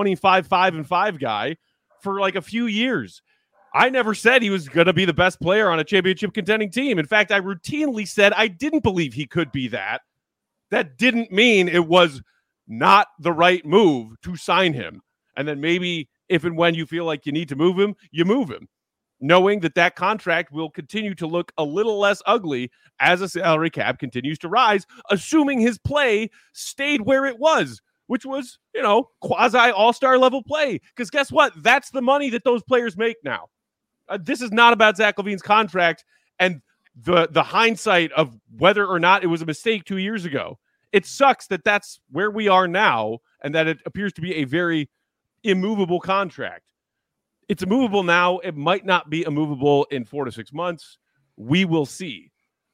25-5-5 guy for like a few years. I never said he was going to be the best player on a championship contending team. In fact, I routinely said I didn't believe he could be that. That didn't mean it was not the right move to sign him. And then maybe if and when you feel like you need to move him, you move him, knowing that contract will continue to look a little less ugly as a salary cap continues to rise, assuming his play stayed where it was, which was, quasi all-star level play. Because guess what? That's the money that those players make now. This is not about Zach LaVine's contract and the hindsight of whether or not it was a mistake 2 years ago. It sucks that that's where we are now and that it appears to be a very immovable contract. It's immovable now. It might not be immovable in 4 to 6 months. We will see.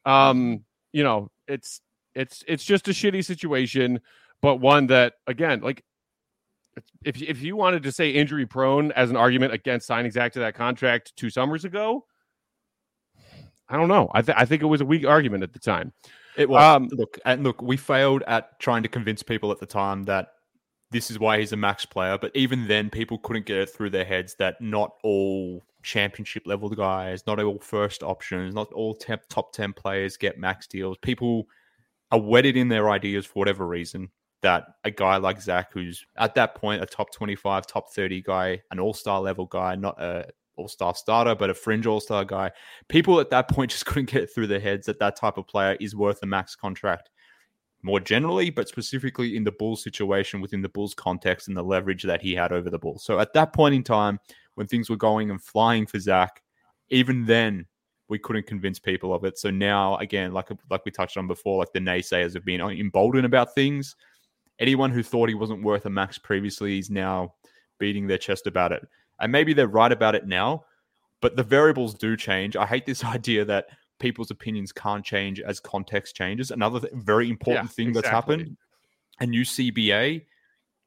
It's just a shitty situation, but one that, again, like, if you wanted to say injury prone as an argument against signing Zach to that contract 2 summers ago, I don't know. I think it was a weak argument at the time. It was. Look, we failed at trying to convince people at the time that this is why he's a max player. But even then, people couldn't get it through their heads that not all championship level guys, not all first options, not all top 10 players get max deals. People are wedded in their ideas for whatever reason that a guy like Zach, who's at that point a top 25, top 30 guy, an all-star level guy, not a all-star starter, but a fringe all-star guy. People at that point just couldn't get it through their heads that type of player is worth a max contract more generally, but specifically in the Bulls situation, within the Bulls context and the leverage that he had over the Bulls. So at that point in time, when things were going and flying for Zach, even then we couldn't convince people of it. So now, again, like we touched on before, like the naysayers have been emboldened about things. Anyone who thought he wasn't worth a max previously is now beating their chest about it. And maybe they're right about it now, but the variables do change. I hate this idea that people's opinions can't change as context changes. Another very important thing that's happened, a new CBA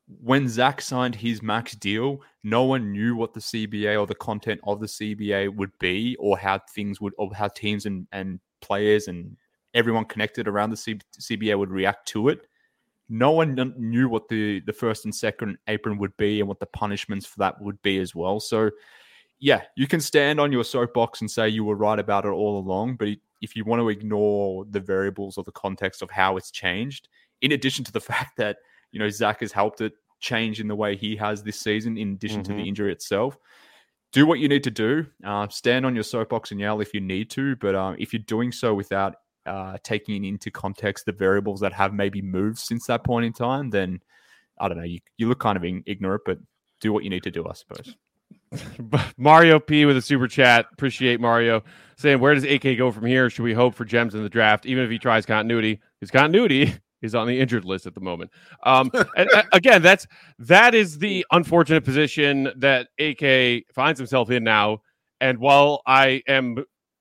when Zach signed his max deal, no one knew what the CBA or the content of the CBA would be, or how things would, or how teams and players and everyone connected around the CBA would react to it. No one knew what the first and second apron would be and what the punishments for that would be as well. So, yeah, you can stand on your soapbox and say you were right about it all along, but if you want to ignore the variables or the context of how it's changed, in addition to the fact that, you know, Zach has helped it change in the way he has this season, in addition to the injury itself, do what you need to do. Stand on your soapbox and yell if you need to, but if you're doing so without taking into context the variables that have maybe moved since that point in time, then I don't know, you look kind of ignorant, but do what you need to do, I suppose. Mario P with a super chat. Appreciate Mario saying, where does AK go from here? Should we hope for gems in the draft, even if he tries continuity? His continuity is on the injured list at the moment. And again, that is the unfortunate position that AK finds himself in now. And while I am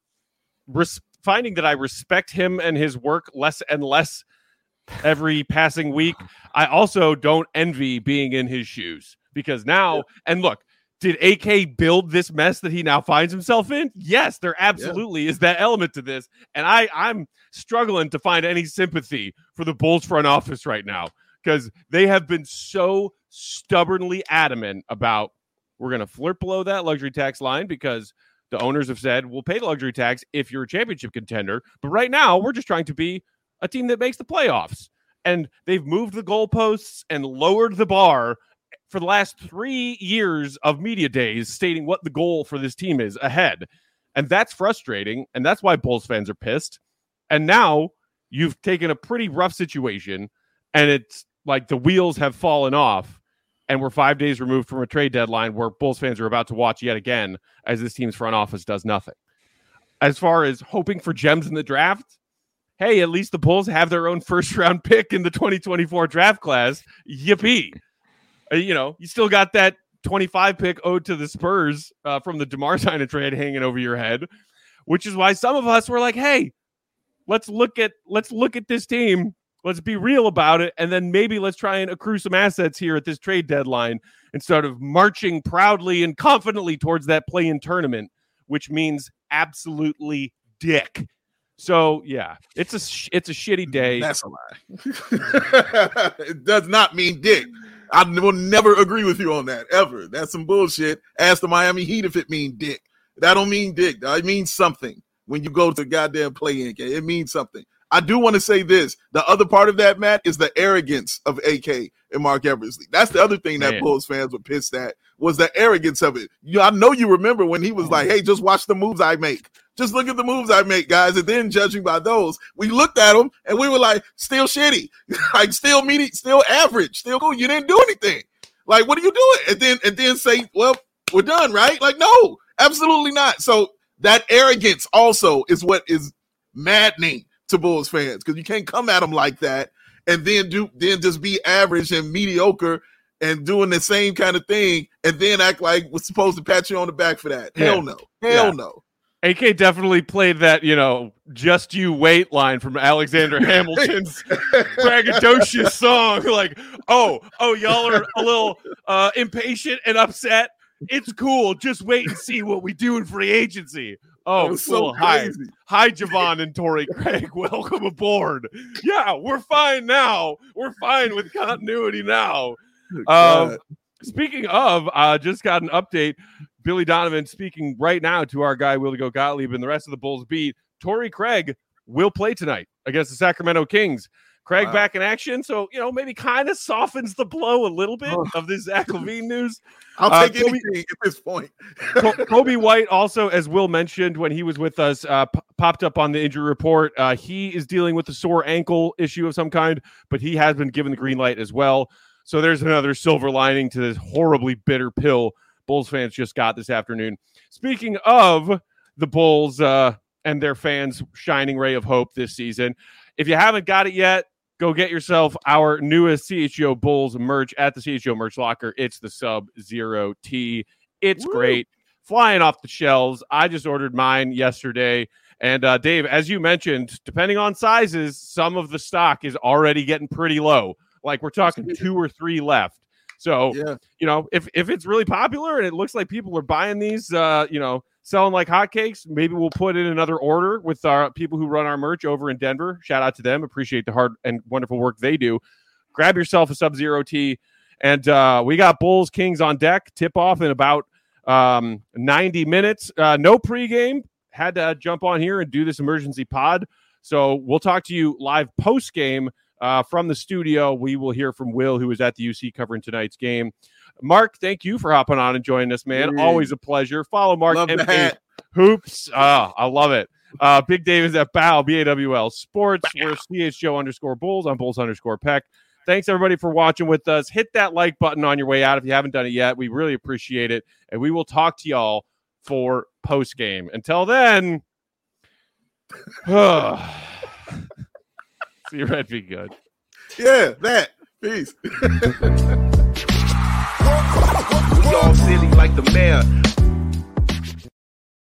finding that I respect him and his work less and less every passing week, I also don't envy being in his shoes, because now, and look, did AK build this mess that he now finds himself in? Yes, there absolutely is that element to this. And I'm struggling to find any sympathy for the Bulls front office right now, because they have been so stubbornly adamant about, we're going to flirt below that luxury tax line because the owners have said, we'll pay the luxury tax if you're a championship contender. But right now, we're just trying to be a team that makes the playoffs. And they've moved the goalposts and lowered the bar for the last 3 years of media days, stating what the goal for this team is ahead. And that's frustrating. And that's why Bulls fans are pissed. And now you've taken a pretty rough situation, and it's like the wheels have fallen off. And we're 5 days removed from a trade deadline where Bulls fans are about to watch yet again as this team's front office does nothing. As far as hoping for gems in the draft, hey, at least the Bulls have their own first-round pick in the 2024 draft class. Yippee. You know, you still got that 25 pick owed to the Spurs from the DeMar Stein trade hanging over your head, which is why some of us were like, hey, let's look at this team. Let's be real about it. And then maybe let's try and accrue some assets here at this trade deadline instead of marching proudly and confidently towards that play-in tournament, which means absolutely dick. So, yeah, it's a shitty day. That's a lie. It does not mean dick. I will never agree with you on that, ever. That's some bullshit. Ask the Miami Heat if it means dick. That don't mean dick. It means something when you go to goddamn play-in game. It means something. I do want to say this. The other part of that, Matt, is the arrogance of AK and Mark Eversley. That's the other thing that Bulls fans were pissed at, was the arrogance of it. I know you remember when he was like, hey, just watch the moves I make. Just look at the moves I make, guys. And then judging by those, we looked at them and we were like, still shitty, like still medium, still average, still cool. You didn't do anything. Like, what are you doing? And then say, well, we're done, right? Like, no, absolutely not. So that arrogance also is what is maddening to Bulls fans, because you can't come at them like that and then just be average and mediocre and doing the same kind of thing and then act like we're supposed to pat you on the back for that. Hell no. Hell no. AK definitely played that, just you wait line from Alexander Hamilton's braggadocious song. Like, oh, y'all are a little impatient and upset. It's cool. Just wait and see what we do in free agency. Oh, cool. Hi, Javon and Torrey Craig. Welcome aboard. Yeah, we're fine now. We're fine with continuity now. Speaking of, just got an update. Billy Donovan speaking right now to our guy, Willie Gottlieb, and the rest of the Bulls beat. Torrey Craig will play tonight against the Sacramento Kings. Craig back in action, so, maybe kind of softens the blow a little bit of this Zach LaVine news. I'll take anything at this point. Kobe White also, as Will mentioned when he was with us, popped up on the injury report. He is dealing with a sore ankle issue of some kind, but he has been given the green light as well. So there's another silver lining to this horribly bitter pill Bulls fans just got this afternoon. Speaking of the Bulls and their fans' shining ray of hope this season, if you haven't got it yet, go get yourself our newest CHGO Bulls merch at the CHGO merch locker. It's the Sub-Zero tee. It's great. Flying off the shelves. I just ordered mine yesterday. And Dave, as you mentioned, depending on sizes, some of the stock is already getting pretty low. Like we're talking 2 or 3 left. So, Yeah. you know, if it's really popular and it looks like people are buying these, you know, selling like hotcakes, maybe we'll put in another order with our people who run our merch over in Denver. Shout out to them. Appreciate the hard and wonderful work they do. Grab yourself a Sub-Zero tee. And we got Bulls Kings on deck. Tip off in about 90 minutes. No pregame. Had to jump on here and do this emergency pod. So we'll talk to you live post game from the studio. We will hear from Will, who was at the UC covering tonight's game. Mark, thank you for hopping on and joining us, man. Always a pleasure. Follow Mark MK Hoops. I love it. Big Dave is at BAWL, BAWL Sports. We're CHGO_Bulls on Bulls_Peck. Thanks, everybody, for watching with us. Hit that like button on your way out if you haven't done it yet. We really appreciate it. And we will talk to y'all for post-game. Until then, see you, Red. Be good. Yeah, that. Peace. We all silly like the mayor.